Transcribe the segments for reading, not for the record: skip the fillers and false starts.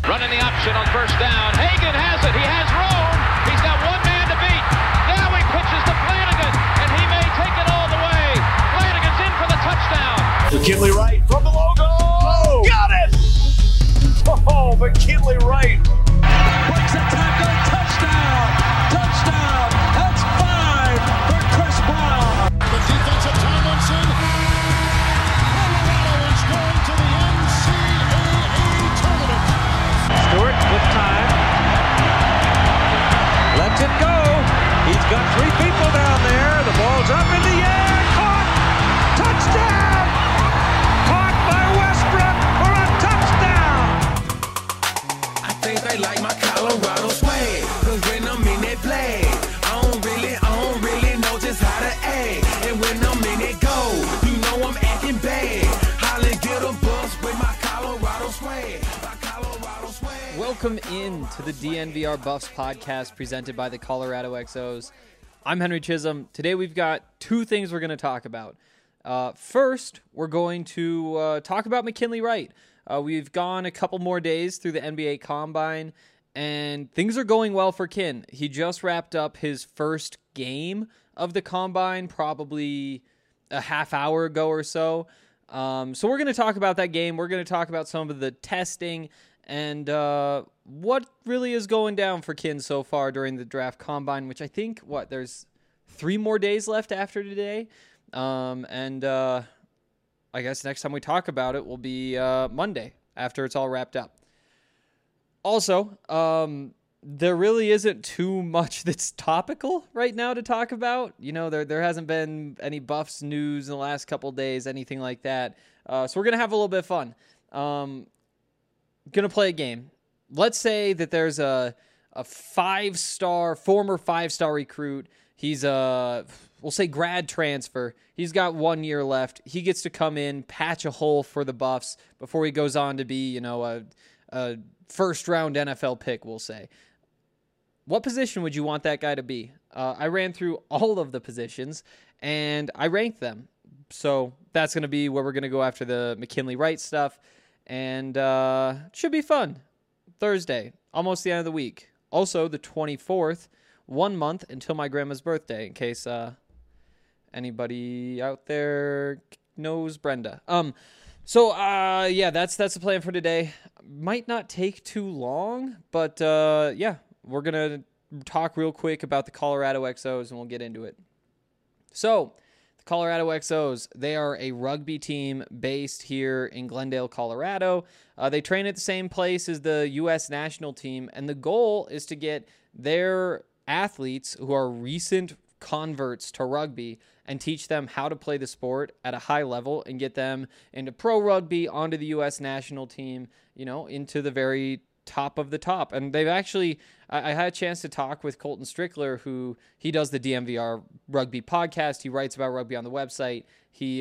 Running the option on first down. Hagan has it. He has room. He's got one man to beat. Now he pitches to Flanagan, and he may take it all the way. Flanagan's in for the touchdown. McKinley Wright from the logo. Oh, got it! Oh, McKinley Wright. Breaks a tackle. Touchdown. Touchdown. That's 5 for Chris Brown. The defense of Tomlinson. Colorado is going to the NCAA tournament. Stewart with time. Lets it go. He's got 3 people down there. The ball's up in the air. Caught. Touchdown. Caught by Westbrook for a touchdown. I think they like my Colorado swag. Cause when I'm in that flag, I don't really know just how to act. And when I'm in that goal, you know I'm acting bad. Holly get a bus with my Colorado swag. Welcome in to the DNVR Buffs podcast presented by the Colorado XOs. I'm Henry Chisholm. Today we've got 2 things we're going to talk about. First, we're going to talk about McKinley Wright. We've gone a couple more days through the NBA Combine, and things are going well for Kin. He just wrapped up his first game of the Combine, probably a half hour ago or so. So we're going to talk about that game. We're going to talk about some of the testing and what really is going down for Kin so far during the draft combine, which I think, there's 3 more days left after today. I guess next time we talk about it will be Monday after it's all wrapped up. Also, there really isn't too much that's topical right now to talk about. You know, there hasn't been any Buffs news in the last couple days, anything like that. So we're going to have a little bit of fun. Going to play a game. Let's say that there's a former 5-star recruit. He's we'll say grad transfer. He's got 1 year left. He gets to come in, patch a hole for the Buffs before he goes on to be, a first-round NFL pick, we'll say. What position would you want that guy to be? I ran through all of the positions, and I ranked them. So that's going to be where we're going to go after the McKinley Wright stuff. And should be fun. Thursday, almost the end of the week. Also, the 24th, 1 month until my grandma's birthday, in case anybody out there knows Brenda. That's the plan for today. Might not take too long, but we're going to talk real quick about the Colorado XOs, and we'll get into it. So, Colorado XOs, they are a rugby team based here in Glendale, Colorado. They train at the same place as the U.S. national team, and the goal is to get their athletes who are recent converts to rugby and teach them how to play the sport at a high level and get them into pro rugby, onto the U.S. national team, into the very top of the top. And they've actually, I had a chance to talk with Colton Strickler, who he does the DMVR rugby podcast. He writes about rugby on the website. He,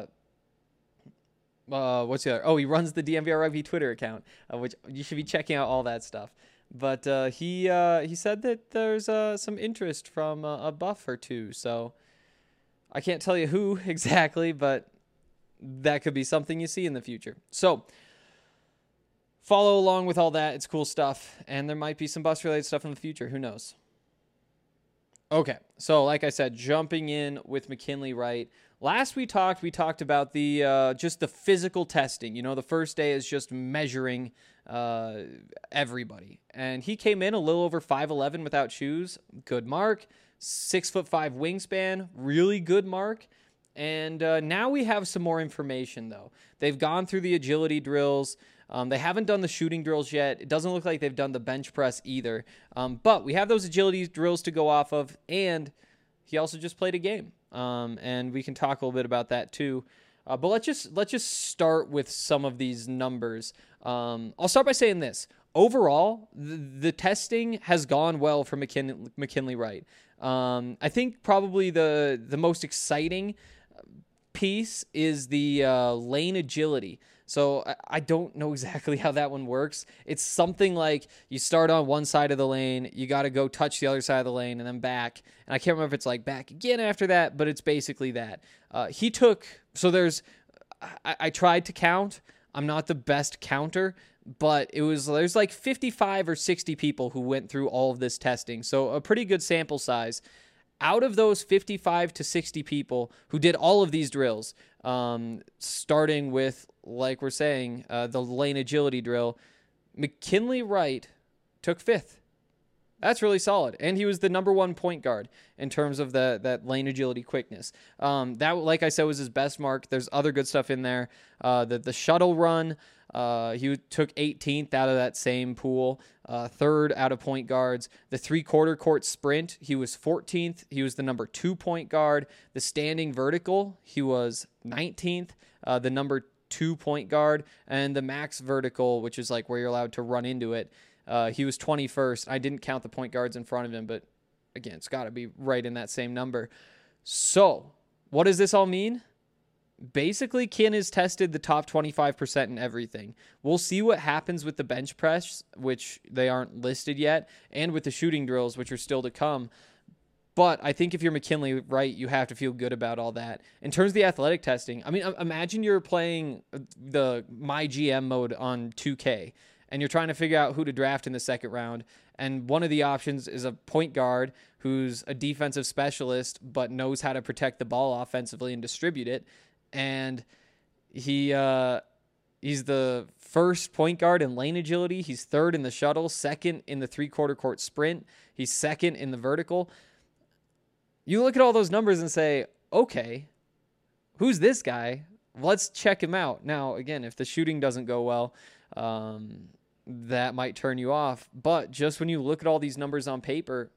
what's the other? Oh, he runs the DMVR rugby Twitter account, which you should be checking out all that stuff. But he said that there's some interest from a Buff or 2. So I can't tell you who exactly, but that could be something you see in the future. So follow along with all that. It's cool stuff. And there might be some Buffs-related stuff in the future. Who knows? Okay. So, like I said, jumping in with McKinley Wright. Last we talked about the just the physical testing. The first day is just measuring everybody. And he came in a little over 5'11" without shoes. Good mark. 6'5" wingspan. Really good mark. And now we have some more information, though. They've gone through the agility drills. They haven't done the shooting drills yet. It doesn't look like they've done the bench press either. But we have those agility drills to go off of, and he also just played a game. And we can talk a little bit about that too. But let's just start with some of these numbers. I'll start by saying this. Overall, the testing has gone well for McKinley Wright. I think probably the most exciting piece is the lane agility. So I don't know exactly how that one works. It's something like you start on one side of the lane, you got to go touch the other side of the lane and then back. And I can't remember if it's like back again after that, but it's basically that. I tried to count. I'm not the best counter, but there's like 55 or 60 people who went through all of this testing. So a pretty good sample size. Out of those 55 to 60 people who did all of these drills, starting with, like we're saying, the lane agility drill, McKinley Wright took 5th. That's really solid. And he was the number 1 point guard in terms of that lane agility quickness. That, like I said, was his best mark. There's other good stuff in there. The shuttle run, he took 18th out of that same pool, 3rd out of point guards. The 3/4 court sprint, he was 14th. He was the number 2 point guard. The standing vertical, he was 19th, the number 2 point guard. And the max vertical, which is like where you're allowed to run into it, he was 21st. I didn't count the point guards in front of him, but again, it's got to be right in that same number. So what does this all mean? Basically, Kin has tested the top 25% in everything. We'll see what happens with the bench press, which they aren't listed yet, and with the shooting drills, which are still to come. But I think if you're McKinley Wright, you have to feel good about all that. In terms of the athletic testing, I mean, imagine you're playing the My GM mode on 2K, and you're trying to figure out who to draft in the second round. And one of the options is a point guard who's a defensive specialist but knows how to protect the ball offensively and distribute it. And he's the 1st point guard in lane agility. He's 3rd in the shuttle, 2nd in the 3/4 court sprint. He's 2nd in the vertical. You look at all those numbers and say, okay, who's this guy? Let's check him out. Now, again, if the shooting doesn't go well, that might turn you off. But just when you look at all these numbers on paper,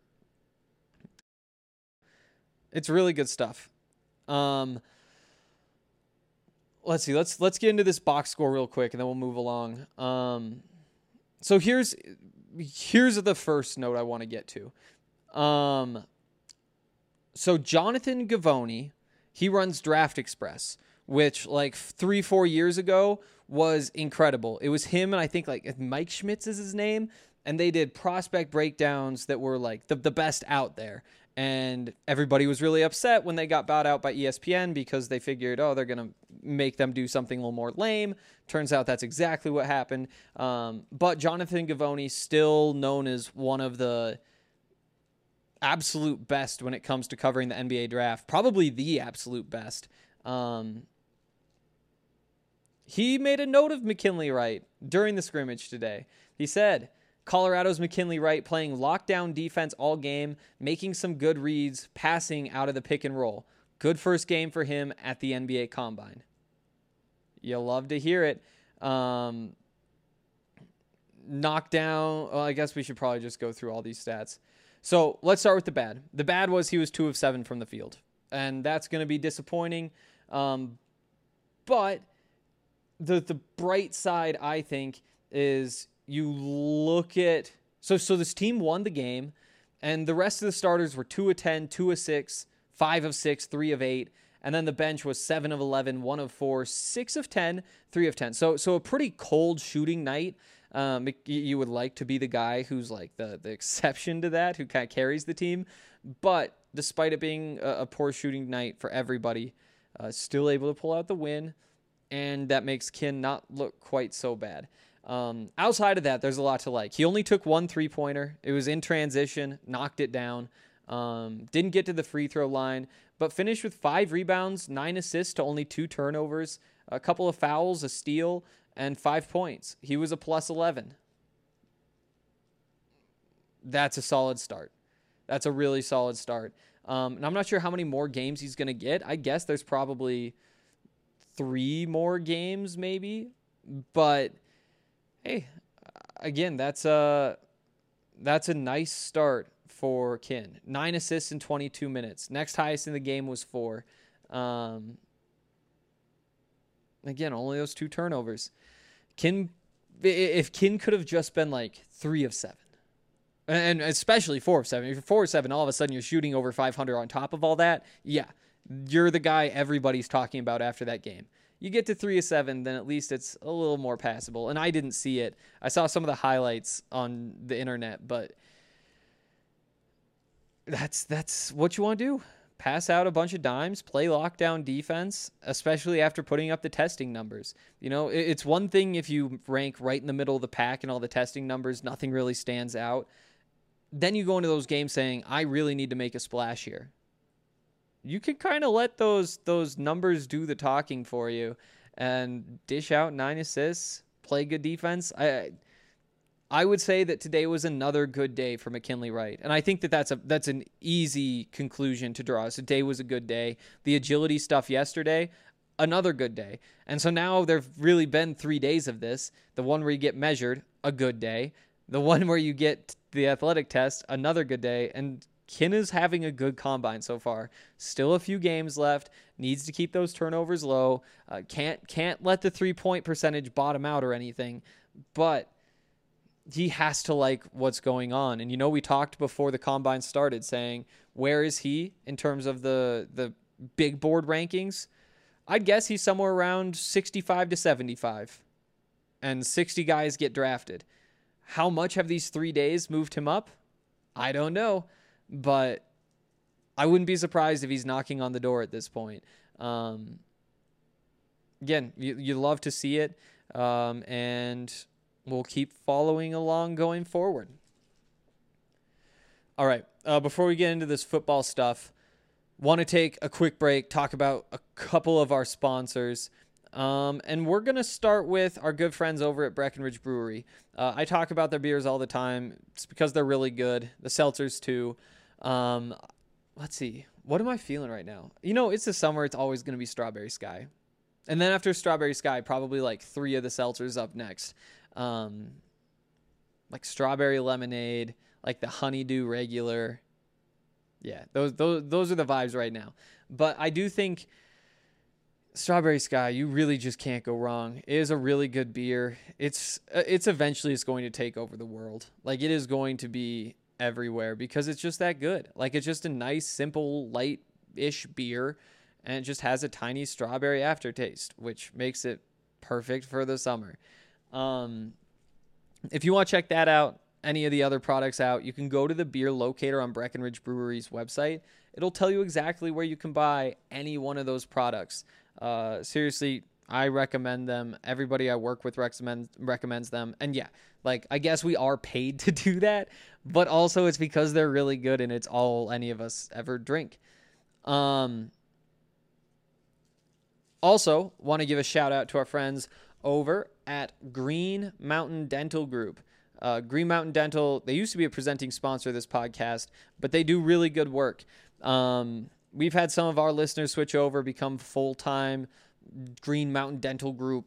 it's really good stuff. Let's see. Let's get into this box score real quick, and then we'll move along. So here's the first note I want to get to. So Jonathan Givony, he runs Draft Express, which like 3-4 years ago was incredible. It was him and I think like Mike Schmitz is his name, and they did prospect breakdowns that were like the best out there. And everybody was really upset when they got bought out by ESPN because they figured, oh, they're going to make them do something a little more lame. Turns out that's exactly what happened. But Jonathan Givony, still known as one of the absolute best when it comes to covering the NBA draft, probably the absolute best. He made a note of McKinley Wright during the scrimmage today. He said, Colorado's McKinley Wright playing lockdown defense all game, making some good reads, passing out of the pick and roll. Good first game for him at the NBA Combine. You'll love to hear it. Knockdown, well, I guess we should probably just go through all these stats. So let's start with the bad. The bad was he was 2 of 7 from the field, and that's going to be disappointing. But the bright side, I think, is you look at so this team won the game, and the rest of the starters were 2 of 10, 2 of 6, 5 of 6, 3 of 8, and then the bench was 7 of 11, 1 of 4, 6 of 10, 3 of 10. So a pretty cold shooting night. You would like to be the guy who's like the exception to that, who kind of carries the team. But despite it being a poor shooting night for everybody, still able to pull out the win, and that makes Kin not look quite so bad. Outside of that, there's a lot to like. He only took 1 3-pointer. It was in transition, knocked it down. Didn't get to the free throw line, but finished with 5 rebounds, 9 assists to only 2 turnovers, a couple of fouls, a steal, and 5 points. He was a plus 11. That's a solid start. That's a really solid start. And I'm not sure how many more games he's going to get. I guess there's probably 3 more games maybe. But hey, again, that's a nice start for Kin. 9 assists in 22 minutes. Next highest in the game was 4. Again, only those 2 turnovers. If Kin could have just been like 3 of 7, and especially 4 of 7. If you're 4 of 7, all of a sudden you're shooting over 500 on top of all that. Yeah, you're the guy everybody's talking about after that game. You get to 3 of 7, then at least it's a little more passable. And I didn't see it. I saw some of the highlights on the internet, but that's what you want to do. pass out a bunch of dimes, play lockdown defense, especially after putting up the testing numbers. You know, it's one thing if you rank right in the middle of the pack and all the testing numbers, nothing really stands out. Then you go into those games saying, I really need to make a splash here. You can kind of let those numbers do the talking for you and dish out 9 assists, play good defense. I would say that today was another good day for McKinley Wright. And I think that that's an easy conclusion to draw. Today was a good day. The agility stuff yesterday, another good day. And so now there've really been 3 days of this. The one where you get measured, a good day. The one where you get the athletic test, another good day. And Kinna's having a good combine so far. Still a few games left. Needs to keep those turnovers low. Can't let the 3-point percentage bottom out or anything. But he has to like what's going on. And, you know, we talked before the combine started saying, where is he in terms of the big board rankings? I'd guess he's somewhere around 65 to 75. And 60 guys get drafted. How much have these 3 days moved him up? I don't know. But I wouldn't be surprised if he's knocking on the door at this point. Again, you love to see it. And we'll keep following along going forward. All right. Before we get into this football stuff, want to take a quick break, talk about a couple of our sponsors. And we're going to start with our good friends over at Breckenridge Brewery. I talk about their beers all the time. It's because they're really good. The seltzers too. Let's see. What am I feeling right now? You know, it's the summer. It's always going to be Strawberry Sky. And then after Strawberry Sky, probably like 3 of the seltzers up next. Like strawberry lemonade, like the honeydew regular. Yeah, those are the vibes right now. But I do think Strawberry Sky, you really just can't go wrong. It is a really good beer. It's eventually going to take over the world. Like, it is going to be everywhere because it's just that good. Like, it's just a nice, simple, light-ish beer, and it just has a tiny strawberry aftertaste, which makes it perfect for the summer. If you want to check that out, any of the other products out, you can go to the beer locator on Breckenridge Brewery's website. It'll tell you exactly where you can buy any one of those products. Seriously, I recommend them. Everybody I work with recommends them. And yeah, like, I guess we are paid to do that, but also it's because they're really good and it's all any of us ever drink. Also, want to give a shout out to our friends over at Green Mountain Dental Group. Green Mountain Dental, they used to be a presenting sponsor of this podcast, but they do really good work. We've had some of our listeners switch over, become full-time Green Mountain Dental Group.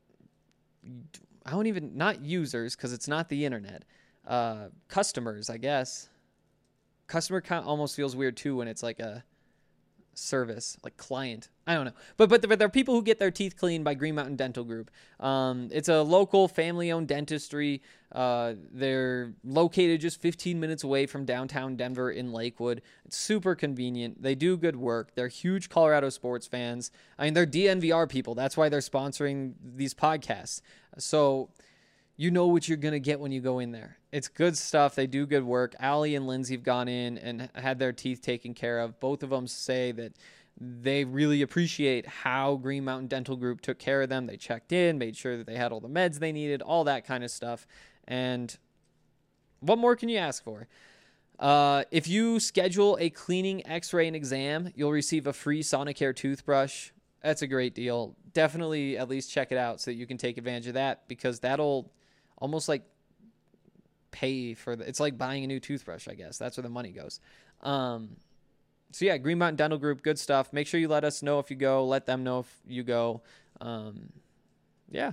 Not users, because it's not the internet. Customers, I guess. Customer count almost feels weird too when it's like a service, like client. I don't know. But there are people who get their teeth cleaned by Green Mountain Dental Group. It's a local family-owned dentistry. They're located just 15 minutes away from downtown Denver in Lakewood. It's super convenient. They do good work. They're huge Colorado sports fans. I mean, they're DNVR people. That's why they're sponsoring these podcasts. So you know what you're going to get when you go in there. It's good stuff. They do good work. Allie and Lindsay have gone in and had their teeth taken care of. Both of them say that they really appreciate how Green Mountain Dental Group took care of them. They checked in, made sure that they had all the meds they needed, all that kind of stuff. And what more can you ask for? If you schedule a cleaning, x-ray, and exam, you'll receive a free Sonicare toothbrush. That's a great deal. Definitely at least check it out so that you can take advantage of that, because that'll almost like pay for it's like buying a new toothbrush, I guess. That's where the money goes. So yeah, Green Mountain Dental Group, good stuff. Make sure you let us know if you go. Let them know if you go. Yeah.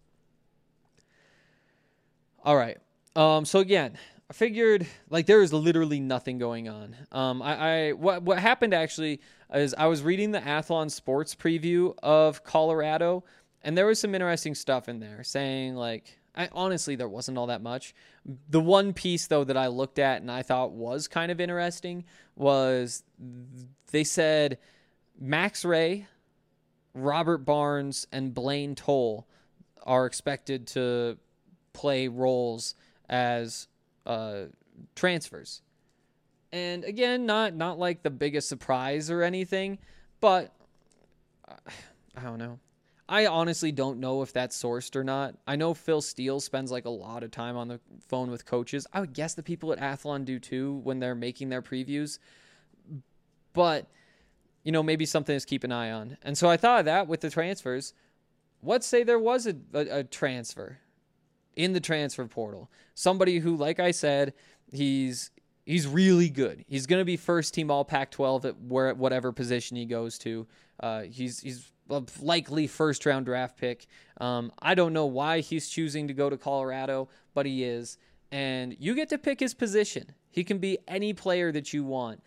All right. So again, I figured like there is literally nothing going on. What happened actually is I was reading the Athlon Sports preview of Colorado, and there was some interesting stuff in there saying like, honestly, there wasn't all that much. The one piece, though, that I looked at and I thought was kind of interesting was they said Max Ray, Robert Barnes, and Blaine Toll are expected to play roles as transfers. And again, not like the biggest surprise or anything, but I don't know. I honestly don't know if that's sourced or not. I know Phil Steele spends like a lot of time on the phone with coaches. I would guess the people at Athlon do too when they're making their previews. But, maybe something to keep an eye on. And so I thought of that with the transfers. Let's say there was a transfer in the transfer portal. Somebody who, like I said, he's really good. He's going to be first team all Pac-12 at whatever position he goes to. He's a likely first round draft pick. I don't know why he's choosing to go to Colorado, but he is. And you get to pick his position. He can be any player that you want.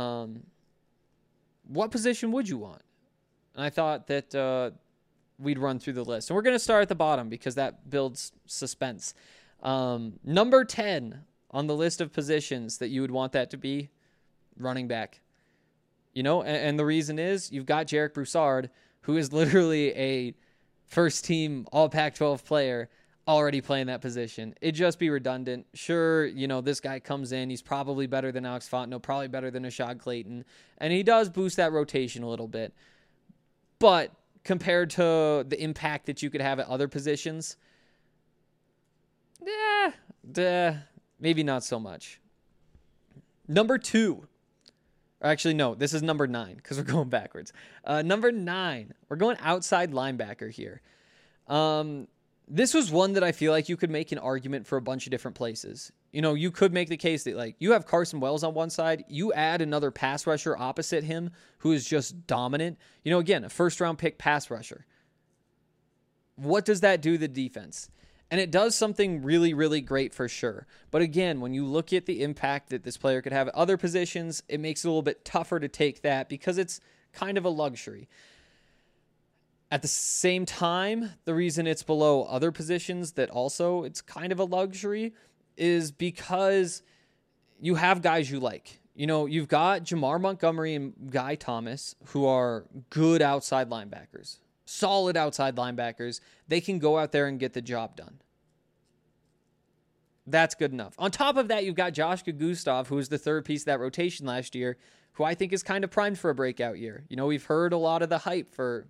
What position would you want? And I thought that we'd run through the list. And we're going to start at the bottom because that builds suspense. Number 10 on the list of positions that you would want that to be, running back. And the reason is you've got Jarek Broussard, who is literally a first-team All-Pac-12 player already playing that position. It'd just be redundant. Sure, this guy comes in. He's probably better than Alex Fontenot, probably better than Ashad Clayton, and he does boost that rotation a little bit. But compared to the impact that you could have at other positions, maybe not so much. Number 2. Actually, no, this is number 9 because we're going backwards. Number 9, we're going outside linebacker here. This was one that I feel like you could make an argument for a bunch of different places. You could make the case that you have Carson Wells on one side, you add another pass rusher opposite him who is just dominant. Again, a first-round pick pass rusher. What does that do to the defense? And it does something really, really great for sure. But again, when you look at the impact that this player could have at other positions, it makes it a little bit tougher to take that because it's kind of a luxury. At the same time, the reason it's below other positions that also it's kind of a luxury is because you have guys you like. You've got Jamar Montgomery and Guy Thomas who are good outside linebackers. Solid outside linebackers. They can go out there and get the job done. That's good enough. On top of that, you've got Josh Gustav, who was the third piece of that rotation last year, who I think is kind of primed for a breakout year. We've heard a lot of the hype for...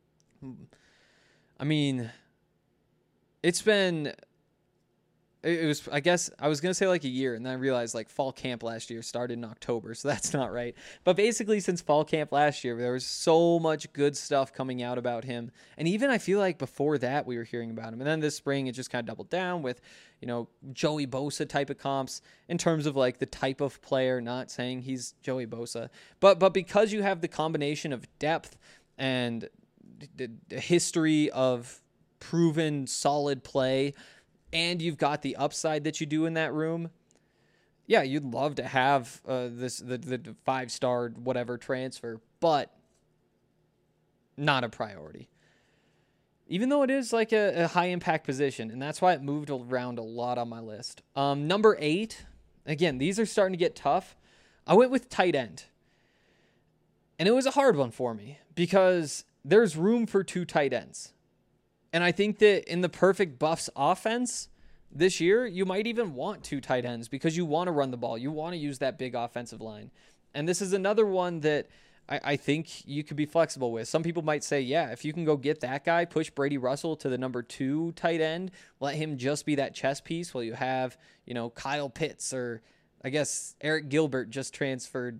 It was, I guess, I was going to say like a year, and then I realized fall camp last year started in October, so that's not right. But basically, since fall camp last year, there was so much good stuff coming out about him. And even I feel like before that, we were hearing about him. And then this spring, it just kind of doubled down with, Joey Bosa type of comps in terms of the type of player, not saying he's Joey Bosa. But because you have the combination of depth and the history of proven solid play, and you've got the upside that you do in that room, yeah, you'd love to have the 5-star whatever transfer, but not a priority. Even though it is a high-impact position, and that's why it moved around a lot on my list. Number 8, again, these are starting to get tough. I went with tight end. And it was a hard one for me because there's room for 2 tight ends. And I think that in the perfect Buffs offense this year, you might even want 2 tight ends because you want to run the ball. You want to use that big offensive line. And this is another one that I think you could be flexible with. Some people might say, yeah, if you can go get that guy, push Brady Russell to the number 2 tight end, let him just be that chess piece while you have, Kyle Pitts or I guess Eric Gilbert just transferred,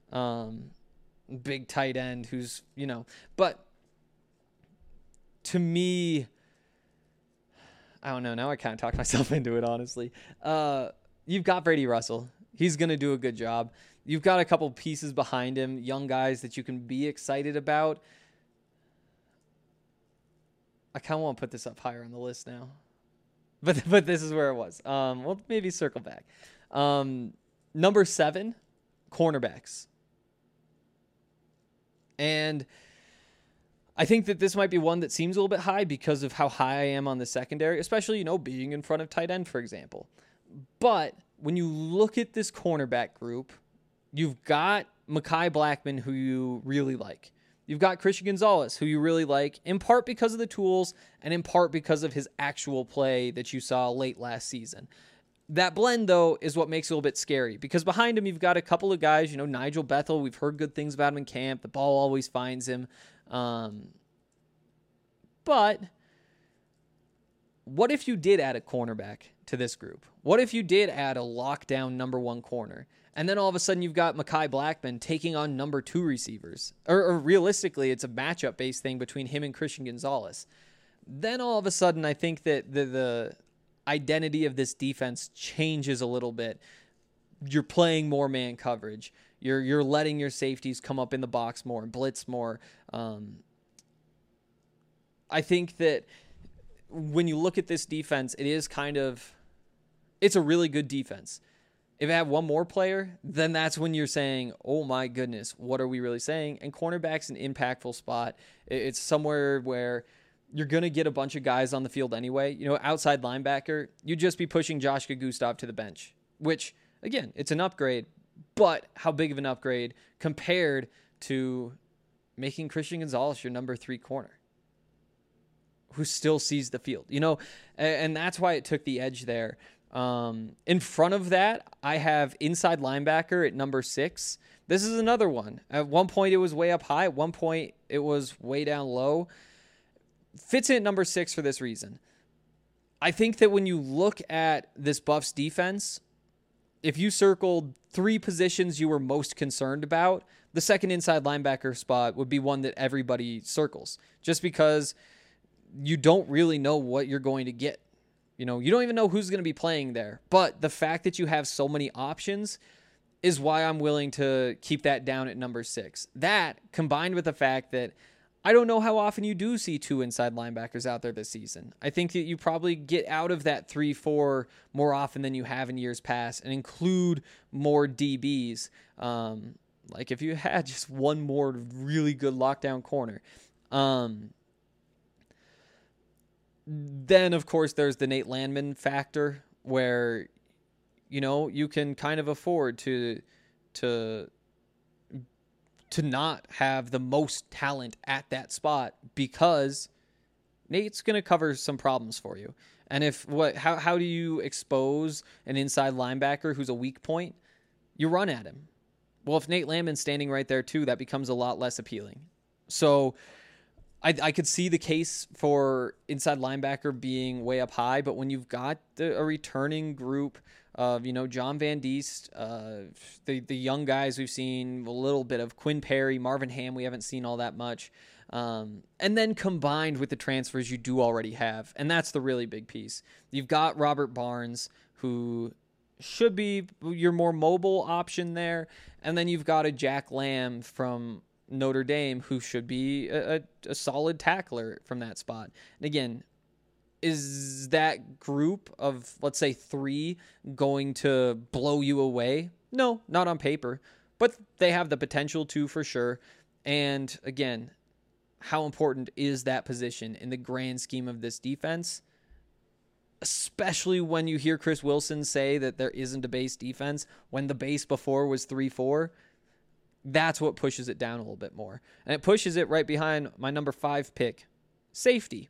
big tight end who's, but to me, I don't know. Now I kind of talked myself into it, honestly. You've got Brady Russell. He's going to do a good job. You've got a couple pieces behind him, young guys that you can be excited about. I kind of want to put this up higher on the list now. But this is where it was. We'll maybe circle back. Number 7, cornerbacks. And I think that this might be one that seems a little bit high because of how high I am on the secondary, especially, being in front of tight end, for example. But when you look at this cornerback group, you've got Mekhi Blackmon, who you really like. You've got Christian Gonzalez, who you really like, in part because of the tools and in part because of his actual play that you saw late last season. That blend, though, is what makes it a little bit scary because behind him, you've got a couple of guys, Nigel Bethel. We've heard good things about him in camp. The ball always finds him. But what if you did add a cornerback to this group? What if you did add a lockdown number 1 corner? And then all of a sudden you've got Mekhi Blackmon taking on number 2 receivers. Or realistically, it's a matchup-based thing between him and Christian Gonzalez. Then all of a sudden I think that the identity of this defense changes a little bit. You're playing more man coverage. You're letting your safeties come up in the box more and blitz more. I think that when you look at this defense, it's a really good defense. If it had one more player, then that's when you're saying, oh my goodness, what are we really saying? And cornerback's an impactful spot. It's somewhere where you're going to get a bunch of guys on the field anyway. Outside linebacker, you'd just be pushing Joshua Gustav to the bench, which, again, it's an upgrade, but how big of an upgrade compared to making Christian Gonzalez your number 3 corner who still sees the field, and that's why it took the edge there. In front of that, I have inside linebacker at number 6. This is another one. At one point, it was way up high. At one point, it was way down low. Fits in at number 6 for this reason. I think that when you look at this Buffs defense, if you circled 3 positions you were most concerned about, the second inside linebacker spot would be one that everybody circles, just because you don't really know what you're going to get. You don't even know who's going to be playing there. But the fact that you have so many options is why I'm willing to keep that down at number 6. That, combined with the fact that I don't know how often you do see 2 inside linebackers out there this season. I think that you probably get out of that 3-4 more often than you have in years past and include more DBs. Like if you had just one more really good lockdown corner. Then, of course, there's the Nate Landman factor where, you can kind of afford to not have the most talent at that spot because Nate's going to cover some problems for you. And how do you expose an inside linebacker who's a weak point? You run at him. Well, if Nate Landman's standing right there too, that becomes a lot less appealing. So I could see the case for inside linebacker being way up high, but when you've got a returning group of, John Van Diest, the young guys we've seen a little bit of, Quinn Perry, Marvin Ham, we haven't seen all that much. And then combined with the transfers you do already have. And that's the really big piece. You've got Robert Barnes, who should be your more mobile option there. And then you've got a Jack Lamb from Notre Dame, who should be a solid tackler from that spot. And again, is that group of, let's say, 3 going to blow you away? No, not on paper, but they have the potential to for sure. And again, how important is that position in the grand scheme of this defense? Especially when you hear Chris Wilson say that there isn't a base defense when the base before was 3-4. That's what pushes it down a little bit more. And it pushes it right behind my number 5 pick, safety.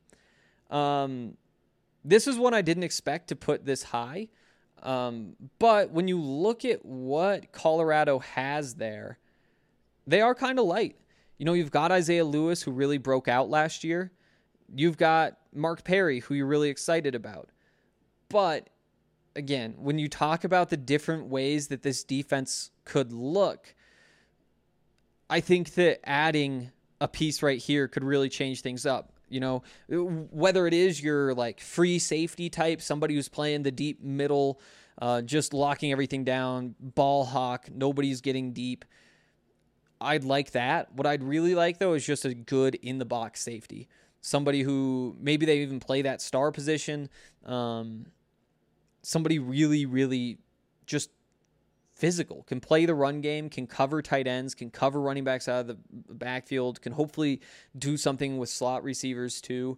This is one I didn't expect to put this high. But when you look at what Colorado has there, they are kind of light. You've got Isaiah Lewis, who really broke out last year. You've got Mark Perry, who you're really excited about. But again, when you talk about the different ways that this defense could look, I think that adding a piece right here could really change things up. Whether it is your free safety type, somebody who's playing the deep middle, just locking everything down, ball hawk, nobody's getting deep. I'd like that. What I'd really like, though, is just a good in-the-box safety. Somebody who maybe they even play that star position. Somebody really, really just physical, can play the run game, can cover tight ends, can cover running backs out of the backfield, can hopefully do something with slot receivers too.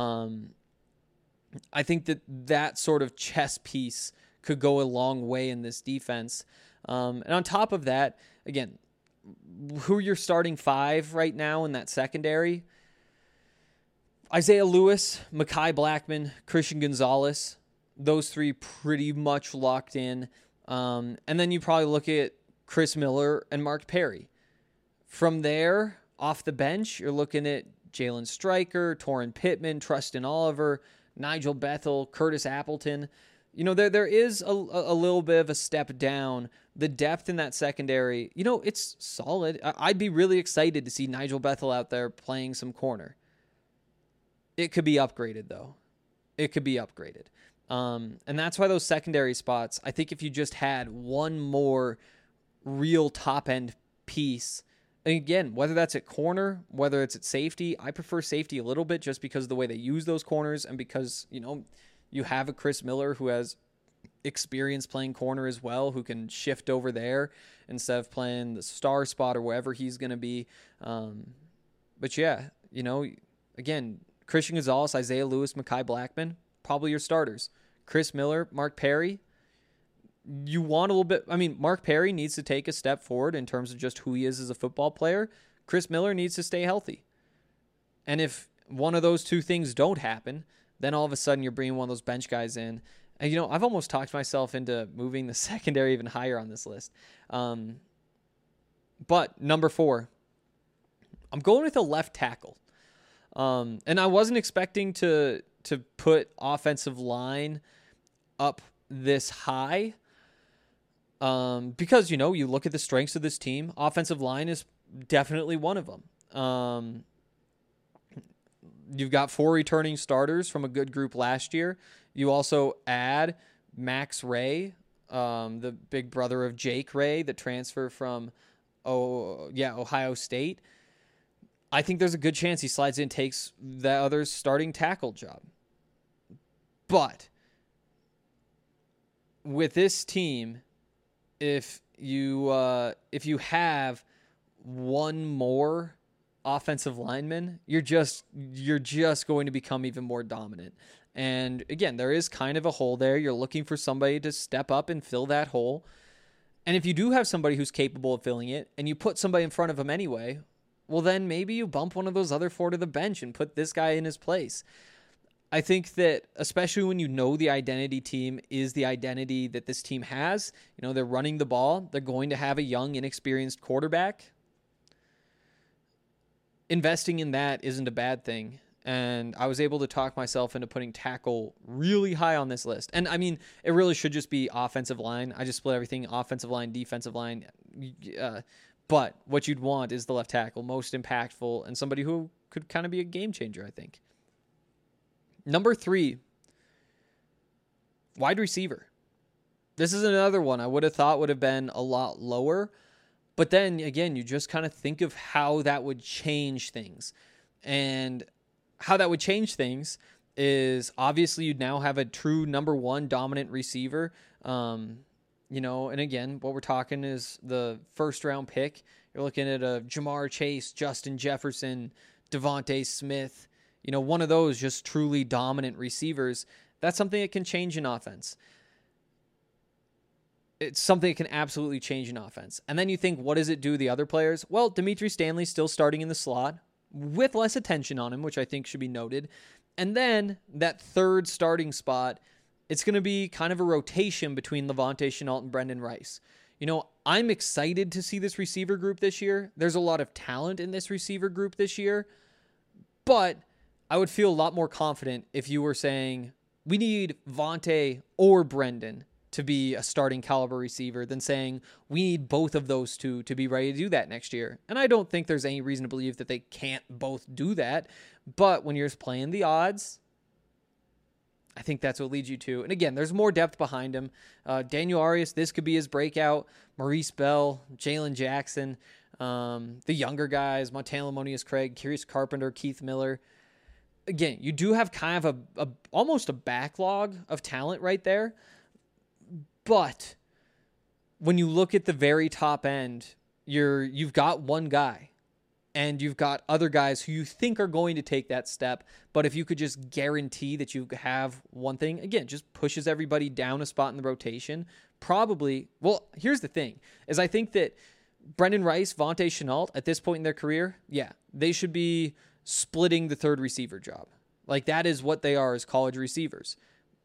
I think that sort of chess piece could go a long way in this defense. And on top of that, again, who are your starting 5 right now in that secondary? Isaiah Lewis, Mekhi Blackmon, Christian Gonzalez. those three pretty much locked in. And then you probably look at Chris Miller and Mark Perry. From there, off the bench, you're looking at Jalen Stryker, Torrin Pittman, Trustin Oliver, Nigel Bethel, Curtis Appleton. You know, there is a little bit of a step down. The depth in that secondary, you know, it's solid. I'd be really excited to see Nigel Bethel out there playing some corner. It could be upgraded, though. It could be upgraded. And that's why those secondary spots, I think if you just had one more real top-end piece, and again, whether that's at corner, whether it's at safety, I prefer safety a little bit just because of the way they use those corners and because, you know, you have a Chris Miller who has experience playing corner as well, who can shift over there instead of playing the star spot or wherever he's going to be. But yeah, you know, again, Christian Gonzalez, Isaiah Lewis, Mekhi Blackman, probably your starters. Chris Miller, Mark Perry. You want a little bit, I mean, Mark Perry needs to take a step forward in terms of just who he is as a football player. Chris Miller needs to stay healthy. And if one of those two things don't happen, then all of a sudden you're bringing one of those bench guys in. And, you know, I've almost talked myself into moving the secondary even higher on this list. But number 4, I'm going with a left tackle. And I wasn't expecting to put offensive line up this high. Because, you know, you look at the strengths of this team, offensive line is definitely one of them. You've got 4 returning starters from a good group last year. You also add Max Ray, the big brother of Jake Ray, the transfer from Ohio State. I think there's a good chance he slides in and takes the other starting tackle job. But with this team, if you have one more offensive lineman, you're just going to become even more dominant. And again, there is kind of a hole there. You're looking for somebody to step up and fill that hole. And if you do have somebody who's capable of filling it, and you put somebody in front of him anyway, well, then maybe you bump one of those other 4 to the bench and put this guy in his place. I think that especially when you know the identity team is the identity that this team has, you know, they're running the ball, they're going to have a young, inexperienced quarterback. Investing in that isn't a bad thing. And I was able to talk myself into putting tackle really high on this list. And I mean, it really should just be offensive line. I just split everything offensive line, defensive line. But what you'd want is the left tackle, most impactful, and somebody who could kind of be a game changer, I think. Number 3, wide receiver. This is another one I would have thought would have been a lot lower. But then, again, you just kind of think of how that would change things. And how that would change things is obviously you'd now have a true number 1 dominant receiver. You know, and again, what we're talking is the first-round pick. You're looking at a Jamar Chase, Justin Jefferson, Devontae Smith. You know, one of those just truly dominant receivers. That's something that can change an offense. It's something that can absolutely change an offense. And then you think, what does it do to the other players? Well, Dimitri Stanley's still starting in the slot with less attention on him, which I think should be noted. And then that third starting spot, it's going to be kind of a rotation between Levante Shenault and Brendan Rice. You know, I'm excited to see this receiver group this year. There's a lot of talent in this receiver group this year. But I would feel a lot more confident if you were saying, we need Vontae or Brendan to be a starting caliber receiver than saying we need both of those two to be ready to do that next year. And I don't think there's any reason to believe that they can't both do that. But when you're just playing the odds, I think that's what leads you to. And again, there's more depth behind him. Daniel Arias, this could be his breakout. Maurice Bell, Jalen Jackson, the younger guys, Montana Lamonius Craig, Curious Carpenter, Keith Miller. Again, you do have kind of a almost a backlog of talent right there. But when you look at the very top end, you've got one guy. And you've got other guys who you think are going to take that step. But if you could just guarantee that you have one thing, again, just pushes everybody down a spot in the rotation. Probably, well, here's the thing, is I think that Brendan Rice, Vontae Shenault, at this point in their career, yeah, they should be splitting the third receiver job. Like, that is what they are as college receivers.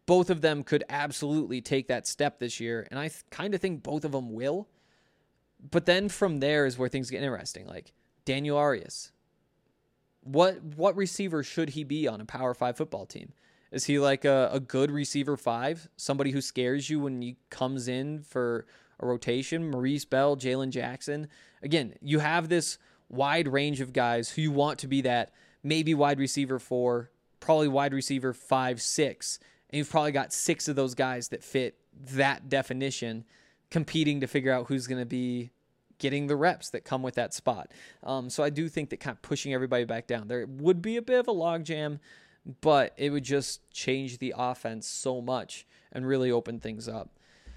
both of them could absolutely take that step this year, and I kind of think both of them will. But then from there is where things get interesting. Like Daniel Arias. What receiver should he be on a Power 5 football team? Is he like a good receiver 5? Somebody who scares you when he comes in for a rotation? Maurice Bell, Jalen Jackson. Again, you have this wide range of guys who you want to be that maybe wide receiver 4, probably wide receiver 5, 6. And you've probably got 6 of those guys that fit that definition competing to figure out who's going to be getting the reps that come with that spot. So I do think that kind of pushing everybody back down, there would be a bit of a logjam, but it would just change the offense so much and really open things up.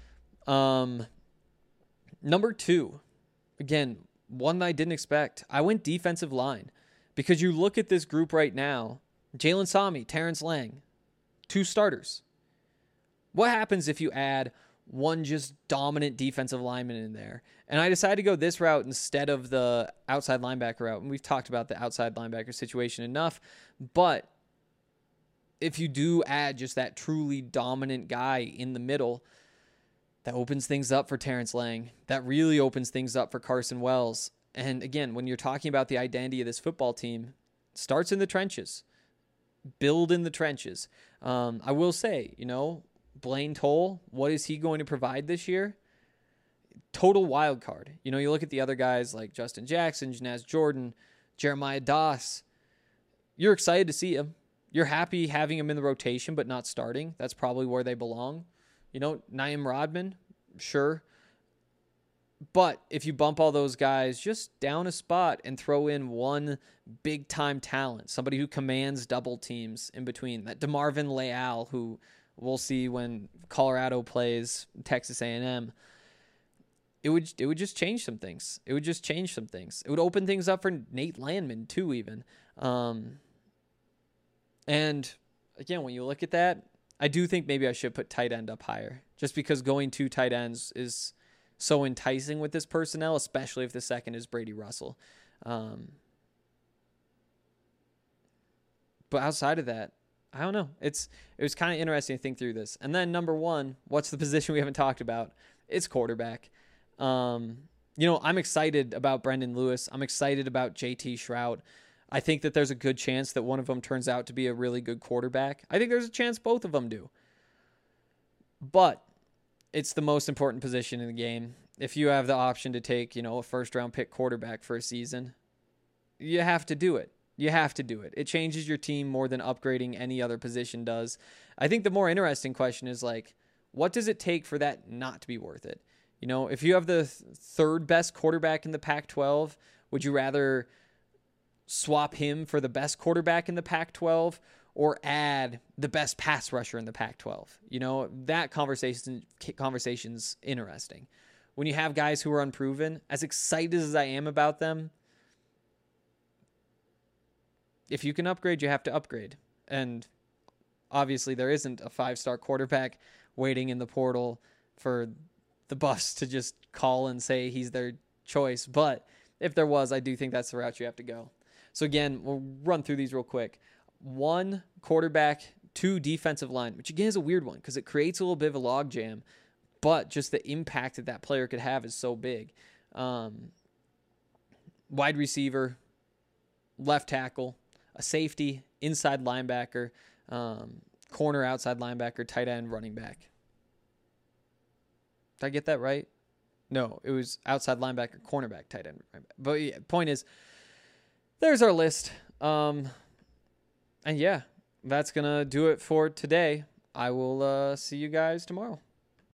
Number 2, again, one that I didn't expect. I went defensive line because you look at this group right now, Jalen Sami, Terrence Lang, 2 starters. What happens if you add one just dominant defensive lineman in there? And I decided to go this route instead of the outside linebacker route. And we've talked about the outside linebacker situation enough. But if you do add just that truly dominant guy in the middle, that opens things up for Terrence Lang. That really opens things up for Carson Wells. And again, when you're talking about the identity of this football team, it starts in the trenches. Build in the trenches. I will say, Blaine Toll, what is he going to provide this year? Total wild card. You look at the other guys like Justin Jackson, Janaz Jordan, Jeremiah Doss. You're excited to see him. You're happy having him in the rotation, but not starting. That's probably where they belong. Naeem Rodman, sure. But if you bump all those guys just down a spot and throw in one big-time talent, somebody who commands double teams in between, that DeMarvin Leal, who we'll see when Colorado plays Texas A&M, it would just change some things. It would just change some things. It would open things up for Nate Landman too, even. And again, when you look at that, I do think maybe I should put tight end up higher, just because going 2 tight ends is so enticing with this personnel, especially if the second is Brady Russell. But outside of that, I don't know. It was kind of interesting to think through this. And then number 1, what's the position we haven't talked about? It's quarterback. I'm excited about Brendan Lewis. I'm excited about JT Shrout. I think that there's a good chance that one of them turns out to be a really good quarterback. I think there's a chance both of them do. But it's the most important position in the game. If you have the option to take, a first-round pick quarterback for a season, you have to do it. You have to do it. It changes your team more than upgrading any other position does. I think the more interesting question is, what does it take for that not to be worth it? If you have the third best quarterback in the Pac-12, would you rather swap him for the best quarterback in the Pac-12 or add the best pass rusher in the Pac-12? That conversation's interesting. When you have guys who are unproven, as excited as I am about them, if you can upgrade, you have to upgrade. And obviously there isn't a 5-star quarterback waiting in the portal for the Buffs to just call and say he's their choice. But if there was, I do think that's the route you have to go. So again, we'll run through these real quick. 1, quarterback. 2, defensive line, which again is a weird one because it creates a little bit of a logjam, but just the impact that player could have is so big. Wide receiver, left tackle, a safety, inside linebacker, corner, outside linebacker, tight end, running back. Did I get that right? No, it was outside linebacker, cornerback, tight end. But yeah, point is, there's our list. And yeah, that's going to do it for today. I will see you guys tomorrow.